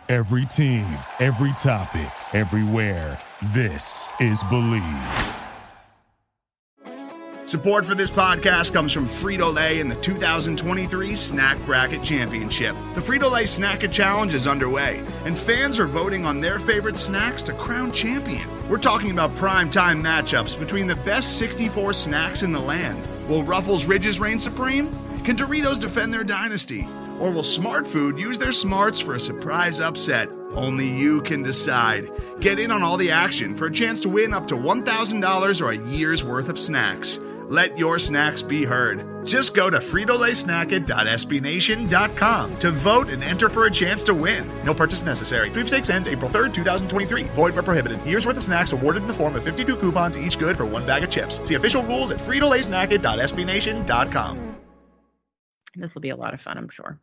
Every team, every topic, everywhere. This is Believe. Support for this podcast comes from Frito-Lay and the 2023 Snack Bracket Championship. The Frito-Lay Snack-It Challenge is underway, and fans are voting on their favorite snacks to crown champion. We're talking about prime-time matchups between the best 64 snacks in the land. Will Ruffles Ridges reign supreme? Can Doritos defend their dynasty? Or will Smart Food use their smarts for a surprise upset? Only you can decide. Get in on all the action for a chance to win up to $1,000 or a year's worth of snacks. Let your snacks be heard. Just go to fritolaysnacket.sbnation.com to vote and enter for a chance to win. No purchase necessary. Sweepstakes ends April 3rd, 2023. Void where prohibited. Year's worth of snacks awarded in the form of 52 coupons, each good for one bag of chips. See official rules at fritolaysnacket.sbnation.com. This will be a lot of fun, I'm sure.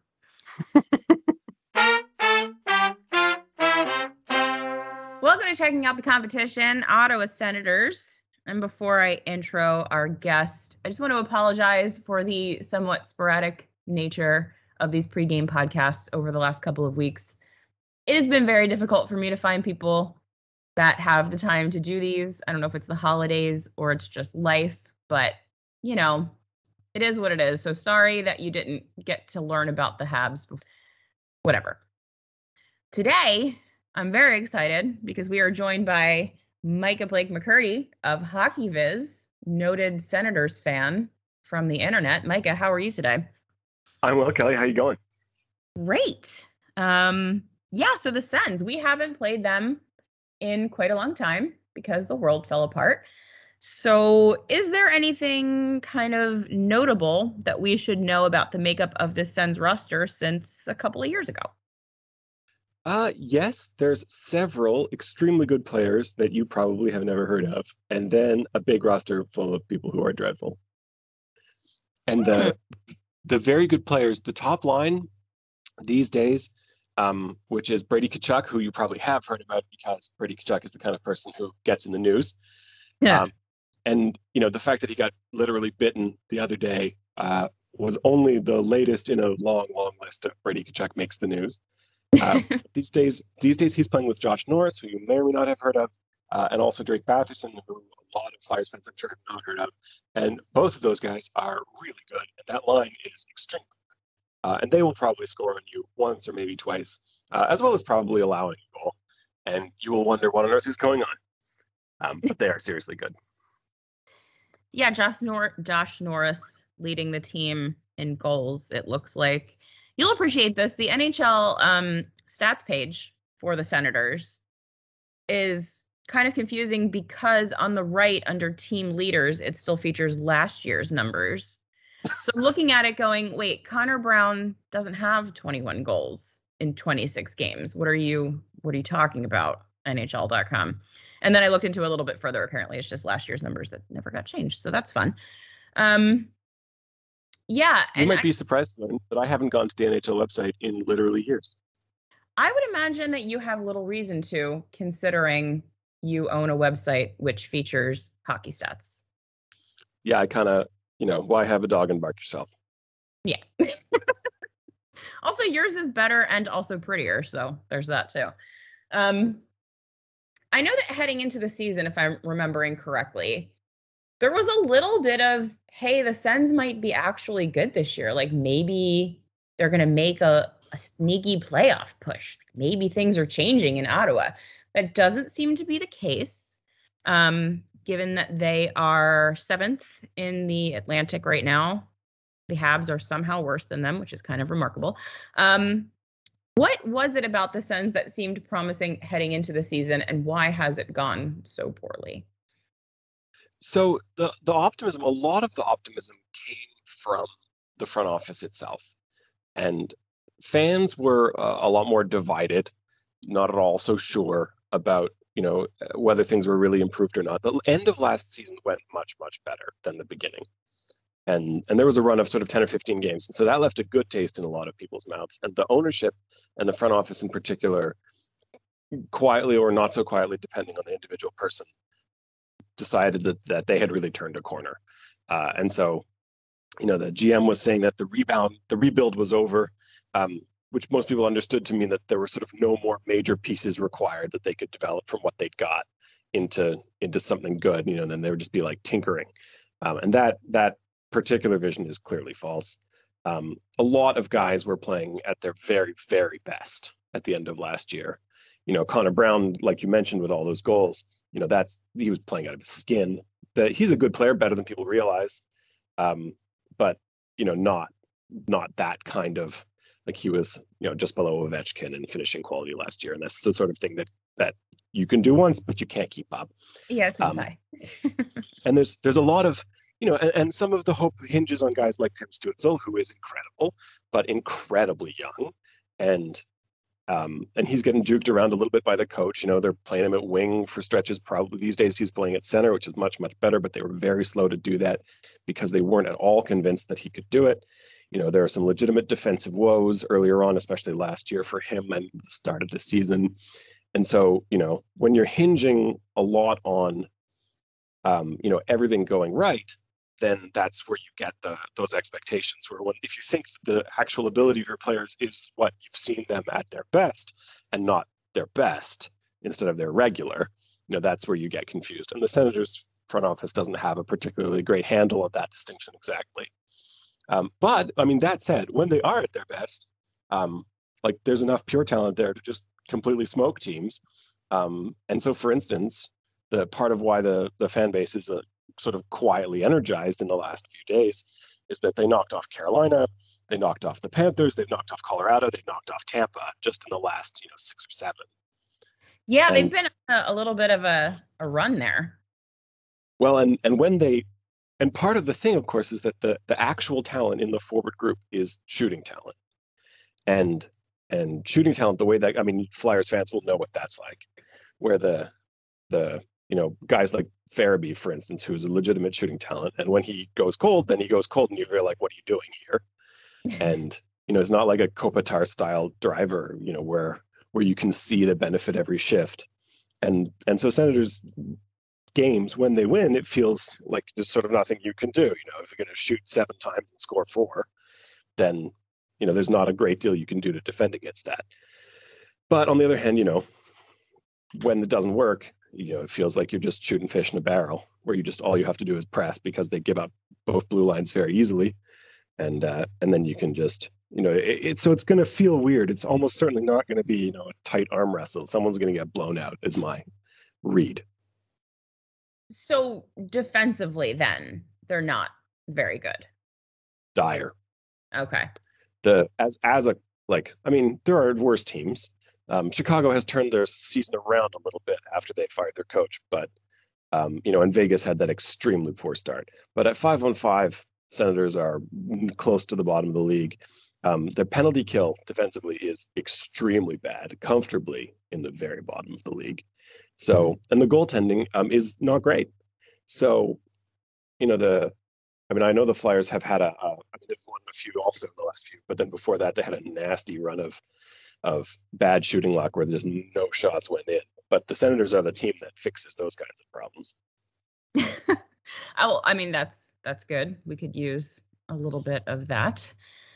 Welcome to Checking Out the Competition, Ottawa Senators. And before I intro our guest, I just want to apologize for the somewhat sporadic nature of these pregame podcasts over the last couple of weeks. It has been very difficult for me to find people that have the time to do these. I don't know if it's the holidays or it's just life, but, you know, it is what it is. So sorry that you didn't get to learn about the Habs before. Whatever. Today, I'm very excited because we are joined by Micah Blake McCurdy of Hockey Viz, noted Senators fan from the internet. Micah, how are you today? I'm well, Kelly. How you going? Great. So the Sens, we haven't played them in quite a long time because the world fell apart. So is there anything kind of notable that we should know about the makeup of this Sens roster since a couple of years ago? Yes, there's several extremely good players that you probably have never heard of, and then a big roster full of people who are dreadful. And the very good players, the top line these days, which is Brady Tkachuk, who you probably have heard about because Brady Tkachuk is the kind of person who gets in the news. Yeah. And, you know, the fact that he got literally bitten the other day was only the latest in a long, long list of Brady Tkachuk makes the news. These days he's playing with Josh Norris, who you may or may not have heard of, and also Drake Batherson, who a lot of Flyers fans I'm sure have not heard of. And both of those guys are really good, and that line is extremely good. And they will probably score on you once or maybe twice, as well as probably allowing a goal. And you will wonder what on earth is going on. But they are seriously good. Yeah, Josh Norris leading the team in goals, it looks like. You'll appreciate this. The NHL stats page for the Senators is kind of confusing because on the right under team leaders, it still features last year's numbers. So I'm looking at it going, wait, Connor Brown doesn't have 21 goals in 26 games. What are you talking about? NHL.com. And then I looked into it a little bit further. Apparently it's just last year's numbers that never got changed. So that's fun. Yeah. You might be surprised to learn that I haven't gone to the NHL website in literally years. I would imagine that you have little reason to, considering you own a website which features hockey stats. Yeah, I kind of, why have a dog and bark yourself? Yeah. Also, yours is better and also prettier, so there's that too. I know that heading into the season, if I'm remembering correctly, there was a little bit of, hey, the Sens might be actually good this year. Like maybe they're going to make a sneaky playoff push. Maybe things are changing in Ottawa. That doesn't seem to be the case, given that they are 7th in the Atlantic right now. The Habs are somehow worse than them, which is kind of remarkable. What was it about the Sens that seemed promising heading into the season, and why has it gone so poorly? So the optimism, a lot of the optimism came from the front office itself. And fans were a lot more divided, not at all so sure about, whether things were really improved or not. The end of last season went much, much better than the beginning. And there was a run of sort of 10 or 15 games. And so that left a good taste in a lot of people's mouths. And the ownership and the front office in particular, quietly or not so quietly, depending on the individual person, decided that they had really turned a corner. And so, the GM was saying that the rebuild was over, which most people understood to mean that there were sort of no more major pieces required that they could develop from what they'd got into something good, and then they would just be like tinkering. And that particular vision is clearly false. A lot of guys were playing at their very, very best at the end of last year. Connor Brown, like you mentioned, with all those goals, he was playing out of his skin. He's a good player, better than people realize, but not that kind of, like, he was just below Ovechkin in finishing quality last year, and that's the sort of thing that you can do once, but you can't keep up. Yeah, it's insane. And there's a lot of and some of the hope hinges on guys like Tim Stützle, who is incredible, but incredibly young, and he's getting juked around a little bit by the coach. They're playing him at wing for stretches. Probably these days he's playing at center, which is much, much better, but they were very slow to do that because they weren't at all convinced that he could do it. There are some legitimate defensive woes earlier on, especially last year for him and the start of the season. And so, when you're hinging a lot on, everything going right, then that's where you get those expectations, where if you think the actual ability of your players is what you've seen them at their best and not their best instead of their regular, that's where you get confused. And the Senators front office doesn't have a particularly great handle on that distinction exactly. But I mean, that said, when they are at their best, there's enough pure talent there to just completely smoke teams. And so, for instance, the part of why the fan base is sort of quietly energized in the last few days is that they knocked off Carolina, they knocked off the Panthers, they've knocked off Colorado, they knocked off Tampa just in the last 6 or 7. Yeah, they've been a little bit of a run there. Well, and when and part of the thing, of course, is that the actual talent in the forward group is shooting talent, and shooting talent, the way that, Flyers fans will know what that's like, where the guys like Farabee, for instance, who is a legitimate shooting talent, and when he goes cold, then he goes cold, and you feel like, what are you doing here? And it's not like a Kopitar style driver, where you can see the benefit every shift, and so Senators games, when they win, it feels like there's sort of nothing you can do. If you're going to shoot 7 times and score 4, then there's not a great deal you can do to defend against that. But on the other hand, when it doesn't work, it feels like you're just shooting fish in a barrel, where all you have to do is press, because they give up both blue lines very easily, and then you can just so it's going to feel weird. It's almost certainly not going to be a tight arm wrestle. Someone's going to get blown out, is my read. So defensively, then they're not very good. Dire. Okay. There are worse teams. Chicago has turned their season around a little bit after they fired their coach, but and Vegas had that extremely poor start. But at 5-on-5, Senators are close to the bottom of the league. Their penalty kill defensively is extremely bad, comfortably in the very bottom of the league. So, and the goaltending is not great. So, I know the Flyers have had they've won a few also in the last few, but then before that, they had a nasty run of bad shooting luck where there's no shots went in. But the Senators are the team that fixes those kinds of problems. That's good. We could use a little bit of that.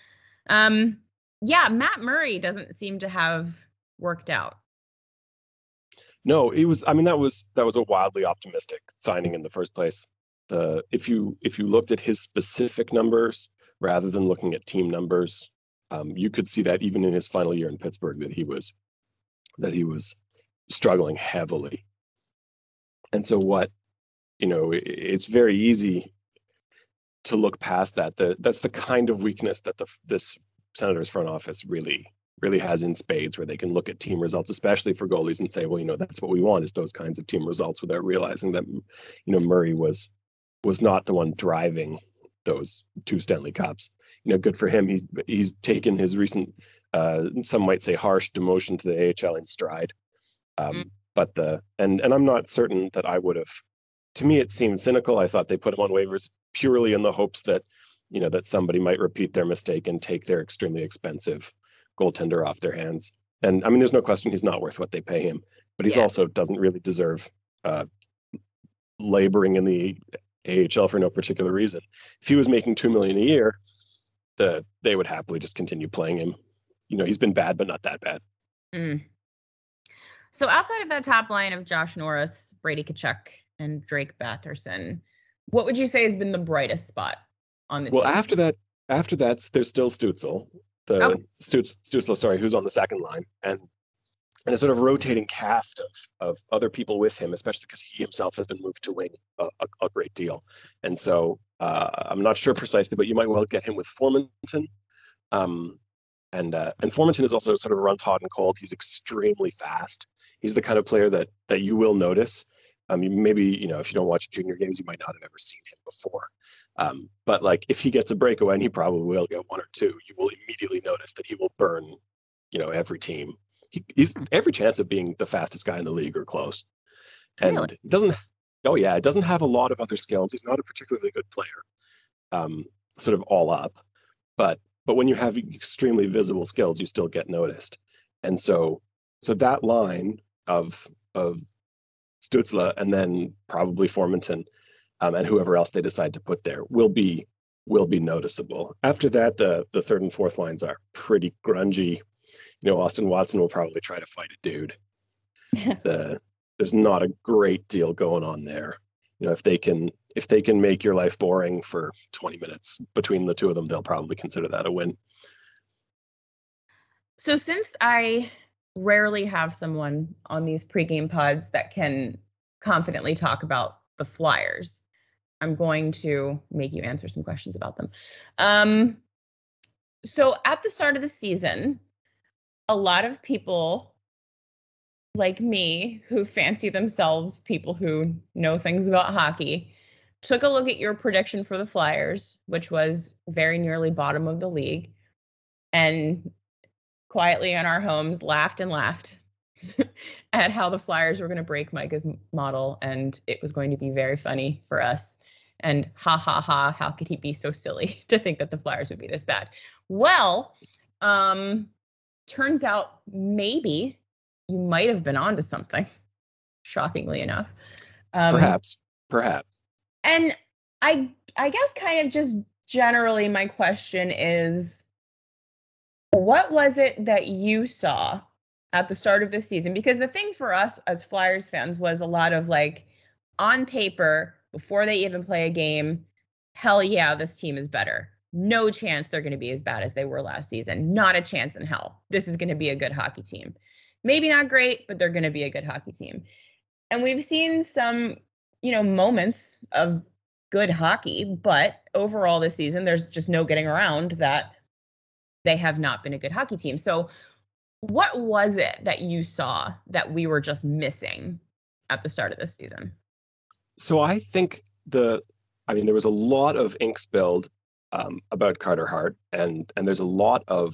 Matt Murray doesn't seem to have worked out. No, that was a wildly optimistic signing in the first place. If you looked at his specific numbers rather than looking at team numbers, you could see that even in his final year in Pittsburgh that he was struggling heavily. And so it's very easy to look past that. That's the kind of weakness that this Senators front office really has in spades, where they can look at team results, especially for goalies, and say, well, that's what we want, is those kinds of team results, without realizing that, Murray was not the one driving those 2 Stanley Cups. Good for him. He's taken his recent, some might say harsh demotion to the AHL in stride. But and I'm not certain that I would have, to me, it seemed cynical. I thought they put him on waivers purely in the hopes that, that somebody might repeat their mistake and take their extremely expensive goaltender off their hands. And there's no question he's not worth what they pay him, but he's also doesn't really deserve laboring in the AHL for no particular reason. If he was making $2 million a year, they would happily just continue playing him. he's been bad, but not that bad. Mm. So outside of that top line of Josh Norris, Brady Tkachuk, and Drake Batherson, what would you say has been the brightest spot on the team? Well, after that, there's still Stützle, Stützle, who's on the second line, and a sort of rotating cast of other people with him, especially because he himself has been moved to wing a great deal. And so I'm not sure precisely, but you might well get him with Formenton. And Formenton is also sort of runs hot and cold. He's extremely fast. He's the kind of player that you will notice. Maybe, if you don't watch junior games, you might not have ever seen him before. But like if he gets a breakaway, and he probably will get one or two, you will immediately notice that he will burn, every team. He's every chance of being the fastest guy in the league or close. And Really? it doesn't have a lot of other skills. He's not a particularly good player, sort of all up. But when you have extremely visible skills, you still get noticed. And so that line of Stützle and then probably Formenton and whoever else they decide to put there will be noticeable. After that, the third and fourth lines are pretty grungy. Austin Watson will probably try to fight a dude. There's not a great deal going on there. If they can make your life boring for 20 minutes between the two of them, they'll probably consider that a win. So since I rarely have someone on these pregame pods that can confidently talk about the Flyers, I'm going to make you answer some questions about them. So at the start of the season, a lot of people like me who fancy themselves people who know things about hockey took a look at your prediction for the Flyers, which was very nearly bottom of the league, and quietly in our homes laughed at how the Flyers were going to break Micah's model, and it was going to be very funny for us. And ha ha ha, how could he be so silly to think that the Flyers would be this bad? Well, turns out maybe you might have been onto something, shockingly enough. Perhaps. And I guess kind of just generally my question is, what was it that you saw at the start of this season? Because the thing for us as Flyers fans was a lot of like, on paper, before they even play a game, hell yeah, this team is better. No chance they're going to be as bad as they were last season. Not a chance in hell. This is going to be a good hockey team. Maybe not great, but they're going to be a good hockey team. And we've seen some, moments of good hockey, but overall this season, there's just no getting around that they have not been a good hockey team. So what was it that you saw that we were just missing at the start of this season? So I think there was a lot of ink spilled about Carter Hart, and there's a lot of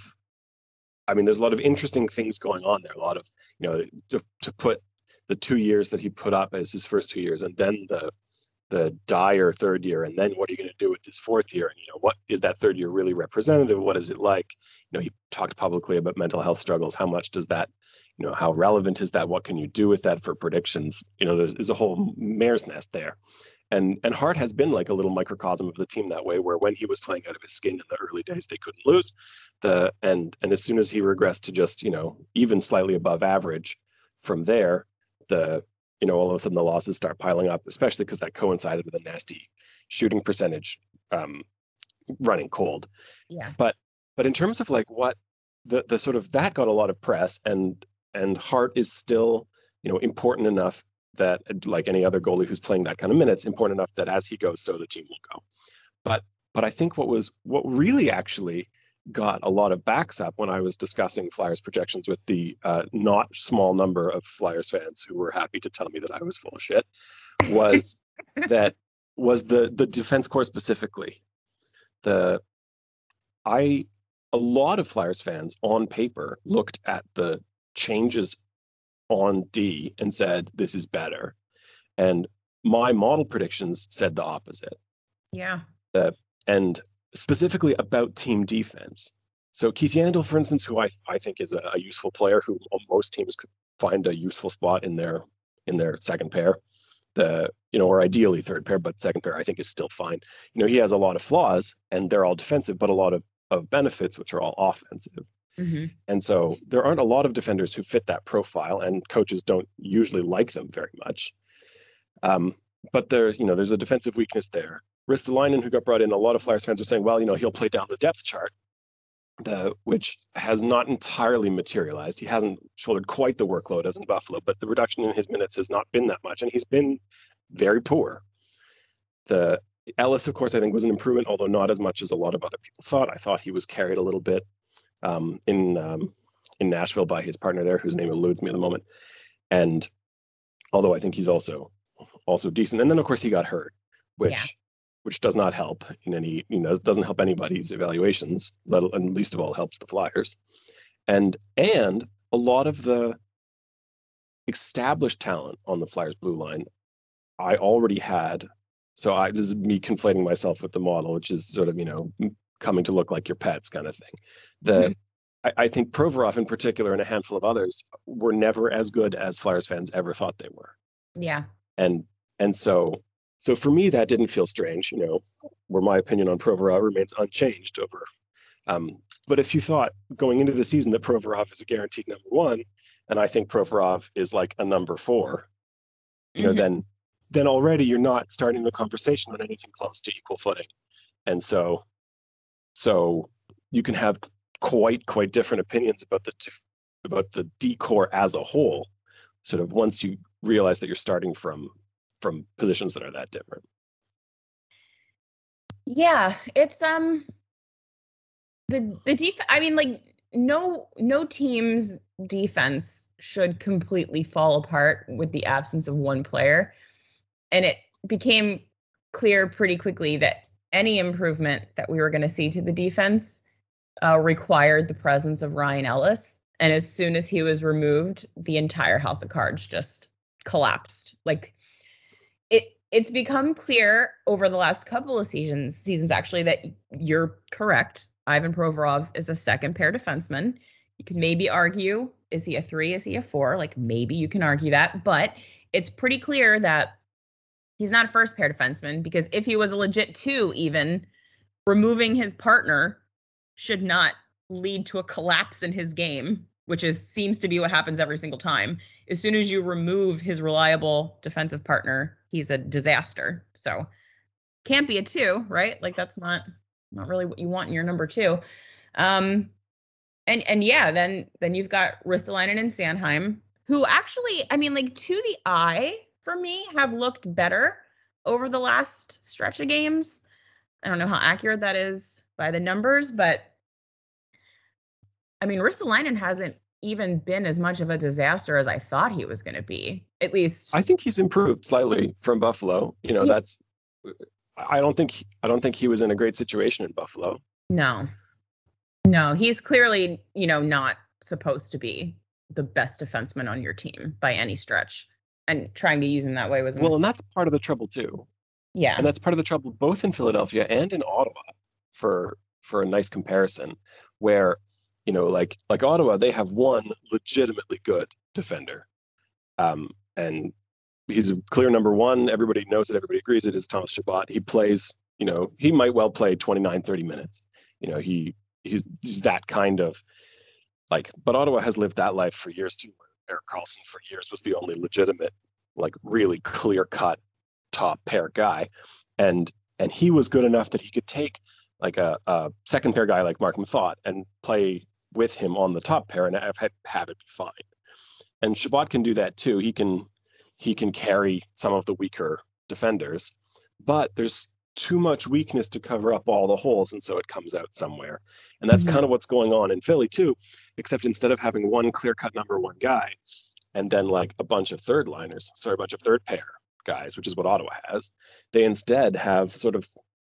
interesting things going on there. A lot of, to put the 2 years that he put up as his first 2 years, and then the dire third year, and then what are you going to do with this fourth year? And what is that third year really representative? What is it like? He talked publicly about mental health struggles. How much does that, how relevant is that? What can you do with that for predictions? There's a whole mare's nest there. And Hart has been like a little microcosm of the team that way, where when he was playing out of his skin in the early days, they couldn't lose. And as soon as he regressed to just, even slightly above average from there, all of a sudden the losses start piling up, especially because that coincided with a nasty shooting percentage running cold. Yeah. But in terms of like what the sort of that got a lot of press, and Hart is still, important enough that, like any other goalie who's playing that kind of minutes, important enough that as he goes, so the team will go. But I think what really actually got a lot of backs up when I was discussing Flyers projections with the not small number of Flyers fans who were happy to tell me that I was full of shit was the defense core specifically. A lot of Flyers fans on paper looked at the changes on D and said, this is better. And my model predictions said the opposite. Yeah. And specifically about team defense. So Keith Yandel, for instance, who I think is a useful player who most teams could find a useful spot in their second pair, or ideally third pair, but second pair I think is still fine. He has a lot of flaws and they're all defensive, but a lot of benefits, which are all offensive. Mm-hmm. And so there aren't a lot of defenders who fit that profile, and coaches don't usually like them very much. But there's a defensive weakness there. Ristolainen, who got brought in, a lot of Flyers fans are saying, well, he'll play down the depth chart, which has not entirely materialized. He hasn't shouldered quite the workload as in Buffalo, but the reduction in his minutes has not been that much, and he's been very poor. The Ellis, of course, I think was an improvement, although not as much as a lot of other people thought. I thought he was carried a little bit in Nashville by his partner there, whose name eludes me at the moment. And although I think he's also decent. And then, of course, he got hurt, which does not help in any, doesn't help anybody's evaluations, and least of all helps the Flyers. And a lot of the established talent on the Flyers blue line, I already had. So this is me conflating myself with the model, which is sort of, coming to look like your pets kind of thing. I think Provorov in particular and a handful of others were never as good as Flyers fans ever thought they were. Yeah. And so for me, that didn't feel strange, where my opinion on Provorov remains unchanged over. But if you thought going into the season that Provorov is a guaranteed number one, and I think Provorov is like a number four, then already you're not starting the conversation on anything close to equal footing. And so you can have quite different opinions about the D-core as a whole, sort of once you realize that you're starting from positions that are that different. Yeah, it's the defense. I mean, like no team's defense should completely fall apart with the absence of one player, and it became clear pretty quickly that any improvement that we were going to see to the defense required the presence of Ryan Ellis. And as soon as he was removed, the entire house of cards just collapsed. Like it's become clear over the last couple of seasons actually, that you're correct. Ivan Provorov is a second pair defenseman. You can maybe argue, is he a 3? Is he a 4? Like maybe you can argue that, but it's pretty clear that he's not a first pair defenseman, because if he was a legit 2, even removing his partner should not lead to a collapse in his game, which seems to be what happens every single time. As soon as you remove his reliable defensive partner, he's a disaster. So can't be a 2, right? Like that's not really what you want in your number 2. And yeah, then you've got Ristolainen and Sanheim, who actually, I mean, like to the eye for me have looked better over the last stretch of games. I don't know how accurate that is by the numbers, but I mean, Ristolainen hasn't even been as much of a disaster as I thought he was going to be. At least I think he's improved slightly from Buffalo. That's I don't think he was in a great situation in Buffalo. No, he's clearly, not supposed to be the best defenseman on your team by any stretch. And trying to use him that way was and that's part of the trouble too. Yeah, and that's part of the trouble both in Philadelphia and in Ottawa. For a nice comparison, where like Ottawa, they have one legitimately good defender, and he's a clear number one. Everybody knows it. Everybody agrees it is Thomas Chabot. He plays. He might well play 29-30 minutes. He's that kind of like. But Ottawa has lived that life for years too. Erik Karlsson for years was the only legitimate, like really clear-cut top pair guy, and he was good enough that he could take like a second pair guy like Mark Methot and play with him on the top pair and have it be fine. And Chabot can do that too. He can carry some of the weaker defenders, but there's too much weakness to cover up all the holes, and so it comes out somewhere. And that's kind of what's going on in Philly too, except instead of having one clear-cut number one guy and then like a bunch of third pair guys, which is what Ottawa has, they instead have sort of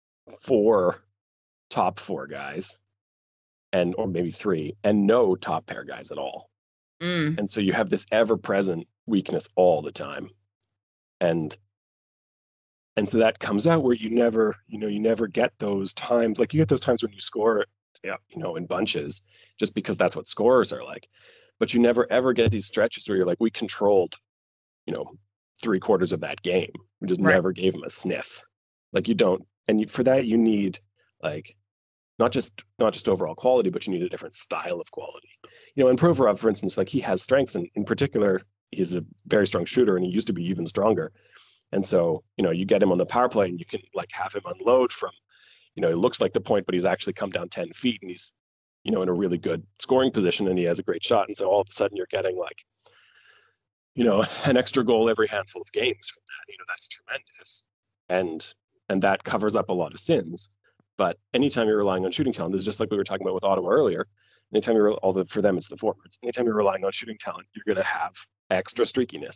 4 top 4 guys or maybe 3 and no top pair guys at all. And so you have this ever-present weakness all the time. And so that comes out where you never get those times. Like you get those times when you score, in bunches, just because that's what scorers are like. But you never ever get these stretches where you're like, we controlled, 3/4 of that game. We just never gave them a sniff. Like you don't. And for that, you need like not just overall quality, but you need a different style of quality. And Provorov, for instance, like he has strengths, and in particular, he's a very strong shooter, and he used to be even stronger. And so, you get him on the power play, and you can like have him unload from, it looks like the point, but he's actually come down 10 feet, and he's, in a really good scoring position, and he has a great shot. And so all of a sudden, you're getting like, an extra goal every handful of games from that. That's tremendous, and that covers up a lot of sins. But anytime you're relying on shooting talent, this is just like we were talking about with Ottawa earlier. Anytime for them, it's the forwards. Anytime you're relying on shooting talent, you're going to have extra streakiness.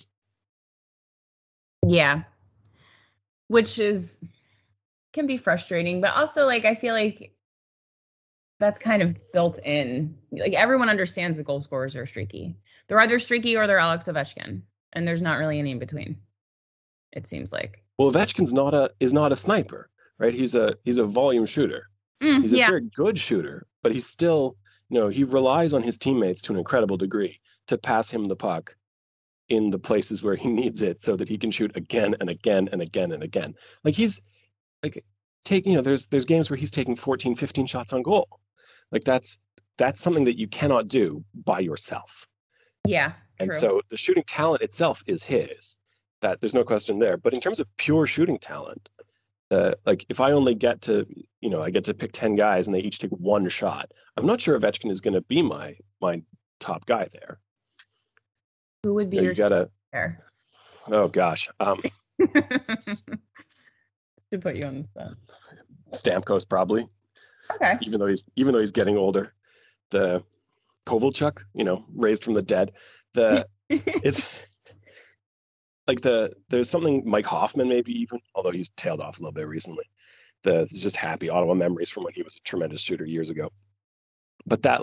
Yeah. Which can be frustrating, but also like, I feel like that's kind of built in. Like everyone understands that goal scorers are streaky. They're either streaky or they're Alex Ovechkin, and there's not really any in between. It seems like. Well, Ovechkin's is not a sniper. Right, he's a volume shooter. He's a very good shooter, but he's still, he relies on his teammates to an incredible degree to pass him the puck in the places where he needs it, so that he can shoot again and again and again and again. Like he's like taking, there's games where he's taking 14, 15 shots on goal. Like that's something that you cannot do by yourself. Yeah, and true. So the shooting talent itself is his. That there's no question there. But in terms of pure shooting talent. Like if I only get to, I get to pick 10 guys and they each take one shot, I'm not sure Ovechkin is going to be my top guy there. Who would be your top there? Oh gosh. To put you on the spot. Stamkos probably. Okay. Even though he's getting older. The Kovalchuk, raised from the dead. It's like there's something Mike Hoffman maybe even, although he's tailed off a little bit recently. It's just happy Ottawa memories from when he was a tremendous shooter years ago. But that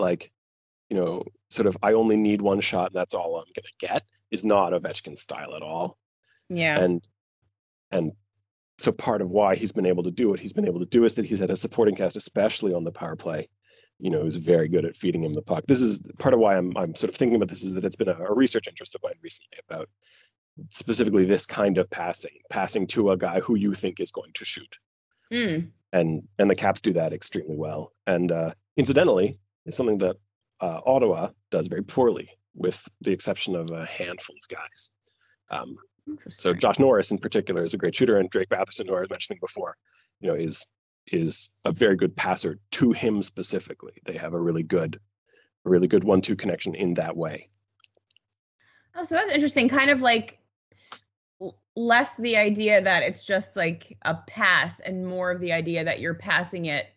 sort of I only need one shot and that's all I'm gonna get is not Ovechkin's style at all. Yeah. And so part of why he's been able to do what he's been able to do is that he's had a supporting cast, especially on the power play, who's very good at feeding him the puck. This is part of why I'm sort of thinking about this, is that it's been a research interest of mine recently about specifically this kind of passing to a guy who you think is going to shoot. And the Caps do that extremely well. And incidentally, it's something that Ottawa does very poorly, with the exception of a handful of guys. So Josh Norris in particular is a great shooter, and Drake Batherson, who I was mentioning before, is a very good passer to him specifically. They have a really good 1-2 connection in that way. Oh, so that's interesting. Kind of like less the idea that it's just like a pass and more of the idea that you're passing it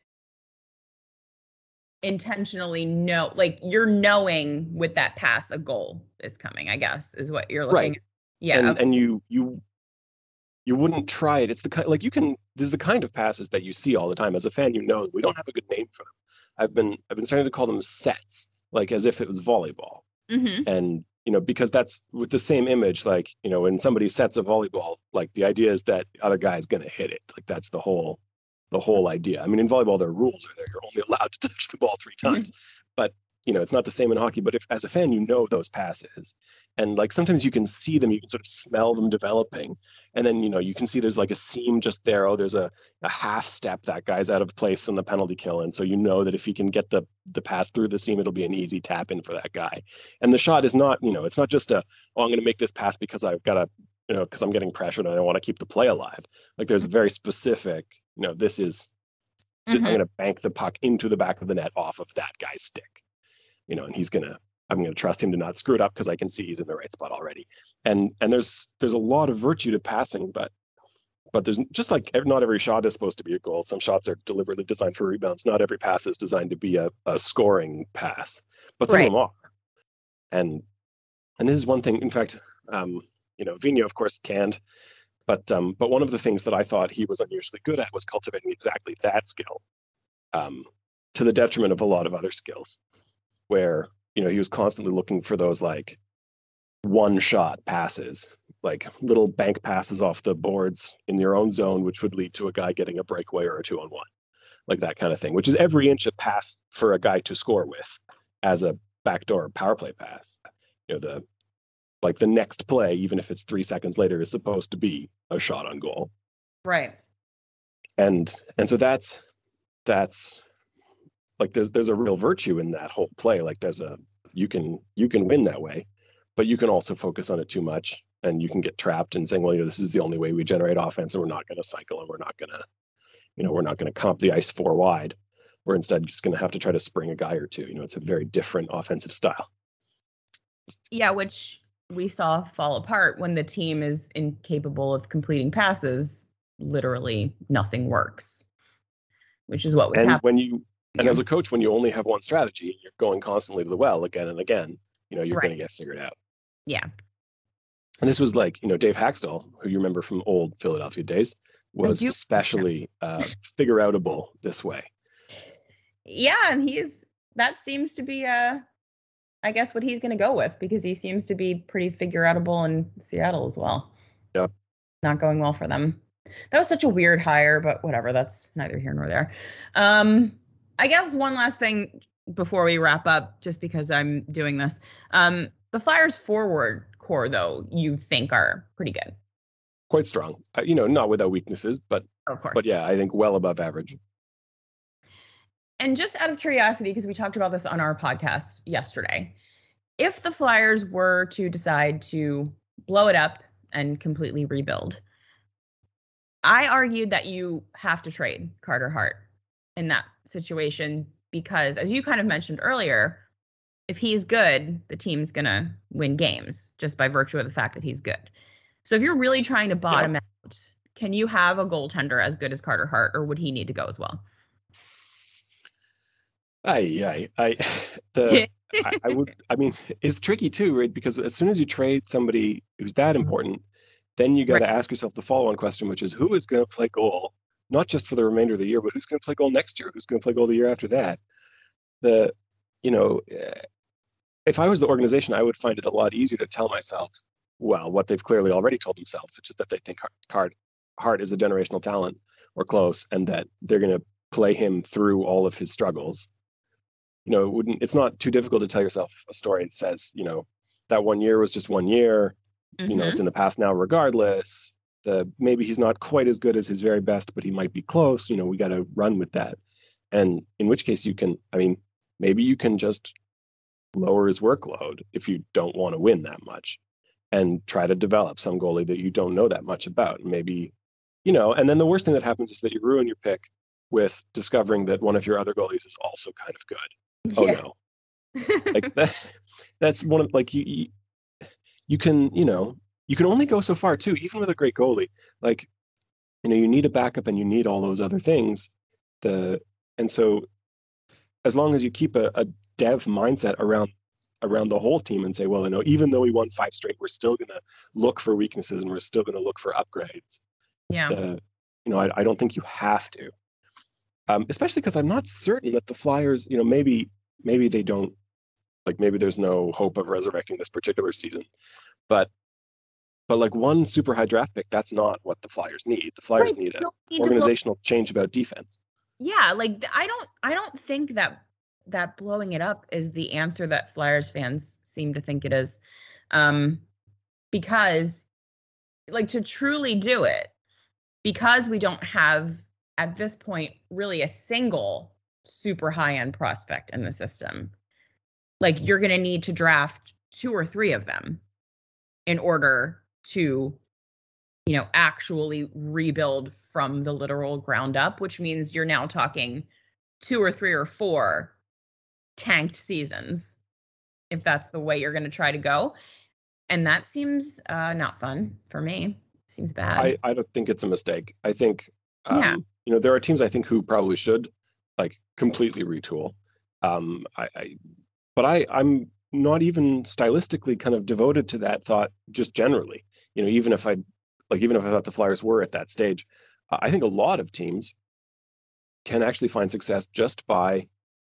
intentionally. Like you're knowing with that pass a goal is coming, I guess, is what you're looking at. Yeah. And you wouldn't try it. It's the kind, like this is the kind of passes that you see all the time. As a fan, we don't have a good name for them. I've been starting to call them sets, like as if it was volleyball. Mm-hmm. And because that's with the same image, like, when somebody sets a volleyball, like the idea is that the other guy is going to hit it. Like that's the whole idea. I mean, in volleyball, there are rules are there. You're only allowed to touch the ball 3 times, but it's not the same in hockey. But if as a fan, those passes, and like sometimes you can see them, you can sort of smell them developing, and then you can see there's like a seam just there. Oh, there's a half step, that guy's out of place in the penalty kill, and so that if he can get the pass through the seam, it'll be an easy tap in for that guy. And the shot is not it's not just I'm going to make this pass because I've got to because I'm getting pressured and I want to keep the play alive. Like there's a very specific this is I'm going to bank the puck into the back of the net off of that guy's stick. And I'm going to trust him to not screw it up because I can see he's in the right spot already. And there's a lot of virtue to passing, but there's just like not every shot is supposed to be a goal. Some shots are deliberately designed for rebounds. Not every pass is designed to be a scoring pass, but some of them are. And this is one thing. In fact, Vigneault, of course, canned, but one of the things that I thought he was unusually good at was cultivating exactly that skill, to the detriment of a lot of other skills, where he was constantly looking for those like one shot passes, like little bank passes off the boards in your own zone, which would lead to a guy getting a breakaway or a 2-on-1, like that kind of thing, which is every inch a pass for a guy to score with as a backdoor power play pass. The next play, even if it's 3 seconds later, is supposed to be a shot on goal. Right. And so that's like there's a real virtue in that whole play. Like you can win that way, but you can also focus on it too much, and you can get trapped in saying, well, this is the only way we generate offense, and we're not going to cycle, and we're not going to come up the ice 4 wide. We're instead just going to have to try to spring a guy or two. It's a very different offensive style. Yeah, which we saw fall apart when the team is incapable of completing passes. Literally nothing works, which is what was happening. And as a coach, when you only have one strategy, you're going constantly to the well again and again, you're going to get figured out. Yeah. And this was like, Dave Haxtell, who you remember from old Philadelphia days, was especially figure-outable this way. Yeah, and that seems to be, I guess, what he's going to go with, because he seems to be pretty figure-outable in Seattle as well. Yep. Not going well for them. That was such a weird hire, but whatever. That's neither here nor there. I guess one last thing before we wrap up, just because I'm doing this. The Flyers forward core, though, you think are pretty good. Quite strong. Not without weaknesses, but of course. But yeah, I think well above average. And just out of curiosity, because we talked about this on our podcast yesterday, if the Flyers were to decide to blow it up and completely rebuild, I argued that you have to trade Carter Hart in that situation, because as you kind of mentioned earlier, if he's good, the team's going to win games just by virtue of the fact that he's good. So if you're really trying to bottom out, can you have a goaltender as good as Carter Hart, or would he need to go as well? I would. I mean, it's tricky too, right? Because as soon as you trade somebody who's that important, then you got to ask yourself the follow-on question, which is who is going to play goal, not just for the remainder of the year, but who's going to play goal next year? Who's going to play goal the year after that? If I was the organization, I would find it a lot easier to tell myself, well, what they've clearly already told themselves, which is that they think Hart is a generational talent or close, and that they're going to play him through all of his struggles. It's not too difficult to tell yourself a story that says, that 1 year was just 1 year. Mm-hmm. It's in the past now regardless. Maybe he's not quite as good as his very best, but he might be close. We got to run with that. And in which case maybe you can just lower his workload if you don't want to win that much, and try to develop some goalie that you don't know that much about. Maybe, and then the worst thing that happens is that you ruin your pick with discovering that one of your other goalies is also kind of good. Oh no. Like that's one of, like, you can only go so far too, even with a great goalie. Like, you need a backup and you need all those other things. And so as long as you keep a dev mindset around the whole team and say, well, even though we won 5 straight, we're still going to look for weaknesses and we're still going to look for upgrades. Yeah. I don't think you have to, especially because I'm not certain that the Flyers, maybe they don't, like, maybe there's no hope of resurrecting this particular season, but like one super high draft pick, that's not what the Flyers need. The Flyers need an organizational change about defense. Yeah, like I don't think that blowing it up is the answer that Flyers fans seem to think it is, because, like, to truly do it, because we don't have at this point really a single super high end prospect in the system. Like, you're going to need to draft 2 or 3 of them in order to, actually rebuild from the literal ground up, which means you're now talking 2 or 3 or 4 tanked seasons, if that's the way you're going to try to go. And that seems not fun for me. Seems bad. I don't think it's a mistake. I think, there are teams I think who probably should, like, completely retool. But I'm not even stylistically kind of devoted to that thought, just generally. Even if I thought the Flyers were at that stage, I think a lot of teams can actually find success just by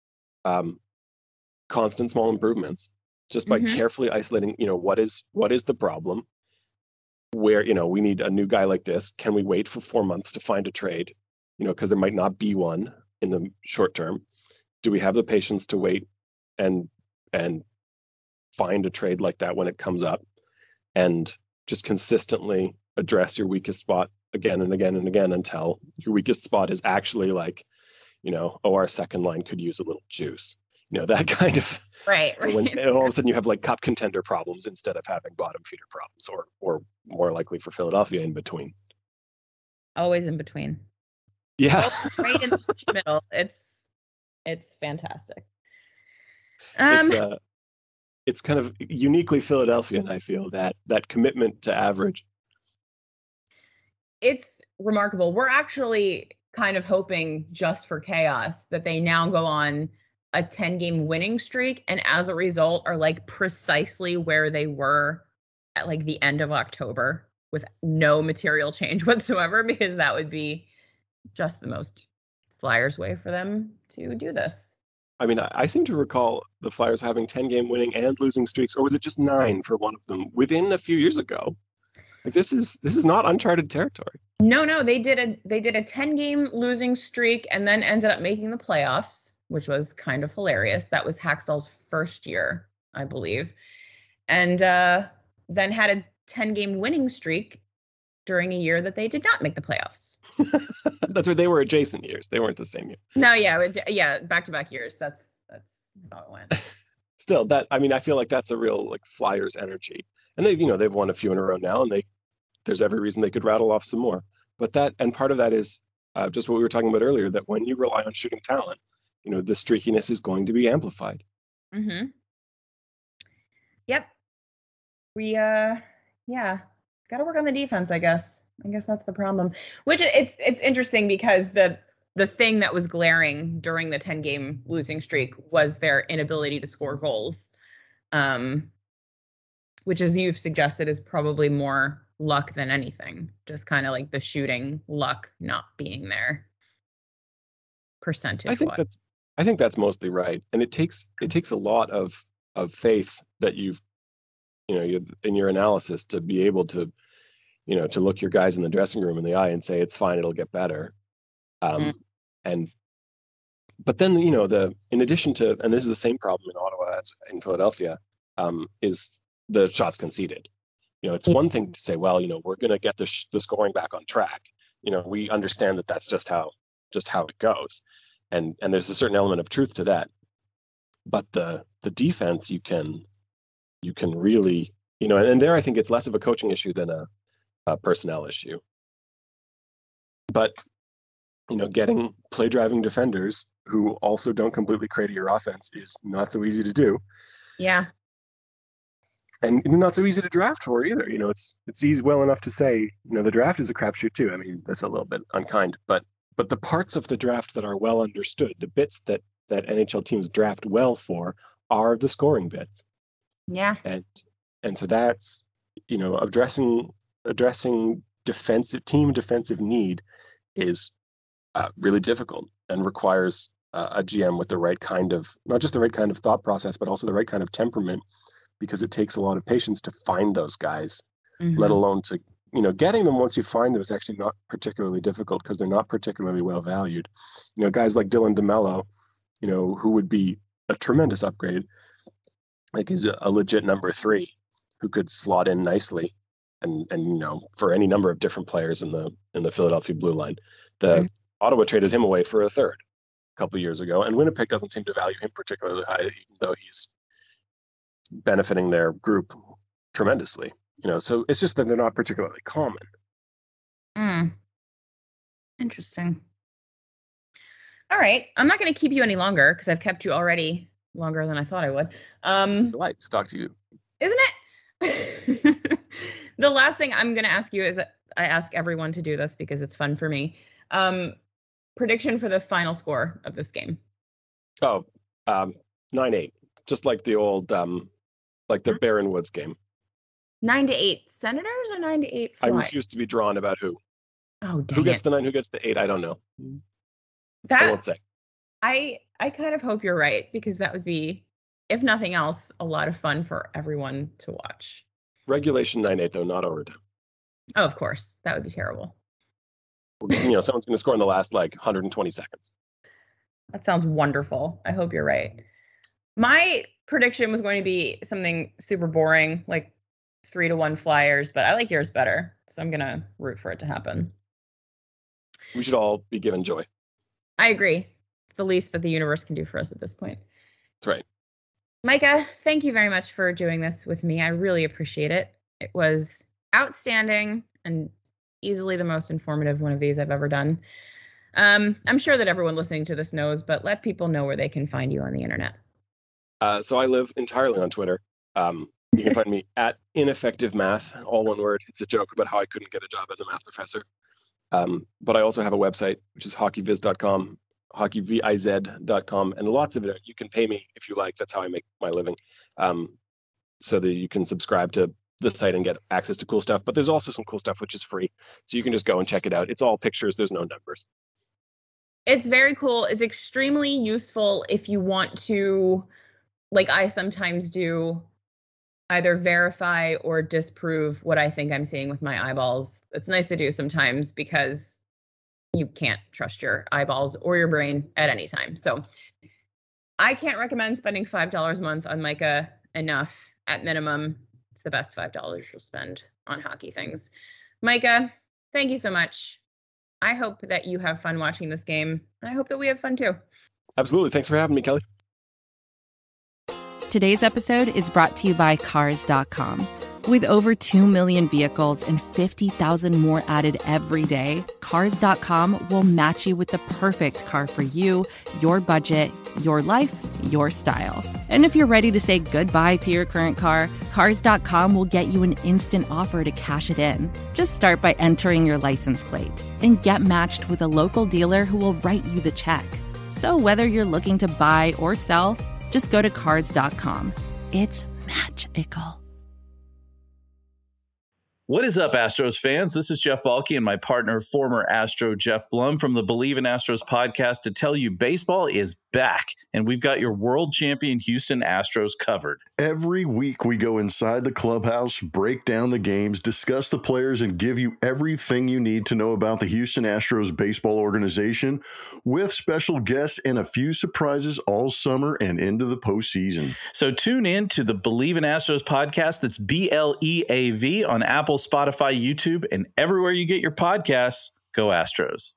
constant small improvements, just by carefully isolating, what is the problem, where, we need a new guy like this. Can we wait for 4 months to find a trade? Because there might not be one in the short term. Do we have the patience to wait and find a trade like that when it comes up, and just consistently address your weakest spot again and again and again until your weakest spot is actually, like, our second line could use a little juice. That kind of right. And all of a sudden you have like cup contender problems instead of having bottom feeder problems, or more likely for Philadelphia in between. Always in between. Yeah. Right in the middle. It's fantastic. It's kind of uniquely Philadelphian, I feel, that commitment to average. It's remarkable. We're actually kind of hoping, just for chaos, that they now go on a 10-game winning streak, and as a result are like precisely where they were at like the end of October, with no material change whatsoever, because that would be just the most Flyers way for them to do this. I mean, I seem to recall the Flyers having 10-game winning and losing streaks, or was it just 9 for one of them within a few years ago? Like this is not uncharted territory. No, they did a 10-game losing streak and then ended up making the playoffs, which was kind of hilarious. That was Hackstall's first year, I believe, and then had a 10-game winning streak during a year that they did not make the playoffs. That's where they were adjacent years. They weren't the same year. No, yeah, back-to-back years. That's how it went. Still, I feel like that's a real like Flyers energy, and they've won a few in a row now, and there's every reason they could rattle off some more. But part of that is just what we were talking about earlier, that when you rely on shooting talent, the streakiness is going to be amplified. Mm-hmm. Yep. We got to work on the defense, I guess. I guess that's the problem. Which it's interesting because the thing that was glaring during the 10-game losing streak was their inability to score goals, which, as you've suggested, is probably more luck than anything. Just kind of like the shooting luck not being there, percentage. I think that's mostly right, and it takes a lot of faith that you've in your analysis to be able to to look your guys in the dressing room in the eye and say it's fine, it'll get better. But then in addition to, and this is the same problem in Ottawa as in Philadelphia, is the shots conceded. It's one thing to say, well, we're going to get the scoring back on track. We understand that that's just how it goes, and there's a certain element of truth to that. But the defense, you can really, and there I think it's less of a coaching issue than a personnel issue. But getting play driving defenders who also don't completely crater your offense is not so easy to do. Yeah. And not so easy to draft for either. It's easy well enough to say, the draft is a crapshoot too. I mean, that's a little bit unkind, but the parts of the draft that are well understood, the bits that NHL teams draft well for, are the scoring bits. Yeah. And so that's, addressing team defensive need is really difficult and requires a GM with the right kind of, not just the right kind of thought process, but also the right kind of temperament, because it takes a lot of patience to find those guys, let alone to, getting them once you find them is actually not particularly difficult because they're not particularly well valued. Guys like Dylan DeMello, who would be a tremendous upgrade, like he's a legit number 3 who could slot in nicely and for any number of different players in the Philadelphia blue line. Ottawa traded him away for a third a couple of years ago, and Winnipeg doesn't seem to value him particularly high, even though he's benefiting their group tremendously. So it's just that they're not particularly common. Interesting. All right, I'm not going to keep you any longer because I've kept you already longer than I thought I would. It's a delight to talk to you, isn't it? The last thing I'm going to ask you is, I ask everyone to do this because it's fun for me. Prediction for the final score of this game. 9-8, just like the old like the Barron Woods game. 9-8 Senators or 9-8 I refuse to be drawn about who. Oh, dang who gets the 9, who gets the 8? I don't know. I won't say. I kind of hope you're right, because that would be, if nothing else, a lot of fun for everyone to watch. Regulation 9-8 though, not overtime. Oh, of course, that would be terrible. Someone's going to score in the last 120 seconds. That sounds wonderful. I hope you're right. My prediction was going to be something super boring, like 3-1 Flyers, but I like yours better, so I'm going to root for it to happen. We should all be given joy. I agree. the least that the universe can do for us at this point. That's right. Micah, thank you very much for doing this with me. I really appreciate it. It was outstanding and easily the most informative one of these I've ever done. I'm sure that everyone listening to this knows, but let people know where they can find you on the internet. So I live entirely on Twitter. You can find me at Ineffective Math, all one word. It's a joke about how I couldn't get a job as a math professor. But I also have a website, which is hockeyviz.com, hockeyviz.com, and lots of it. You can pay me if you like. That's how I make my living. So that you can subscribe to the site and get access to cool stuff. But there's also some cool stuff which is free. So you can just go and check it out. It's all pictures. There's no numbers. It's very cool. It's extremely useful if you want to, like I sometimes do, either verify or disprove what I think I'm seeing with my eyeballs. It's nice to do sometimes because you can't trust your eyeballs or your brain at any time. So I can't recommend spending $5 a month on Micah enough. At minimum, it's the best $5 you'll spend on hockey things. Micah, thank you so much. I hope that you have fun watching this game. And I hope that we have fun too. Absolutely. Thanks for having me, Kelly. Today's episode is brought to you by Cars.com. With over 2 million vehicles and 50,000 more added every day, Cars.com will match you with the perfect car for you, your budget, your life, your style. And if you're ready to say goodbye to your current car, Cars.com will get you an instant offer to cash it in. Just start by entering your license plate and get matched with a local dealer who will write you the check. So whether you're looking to buy or sell, just go to Cars.com. It's magical. What is up, Astros fans? This is Jeff Balke and my partner, former Astro Jeff Blum from the Believe in Astros podcast to tell you baseball is back, and we've got your world champion Houston Astros covered. Every week we go inside the clubhouse, break down the games, discuss the players, and give you everything you need to know about the Houston Astros baseball organization with special guests and a few surprises all summer and into the postseason. So tune in to the Believe in Astros podcast. That's BLEAV on Apple, Spotify, YouTube, and everywhere you get your podcasts. Go Astros.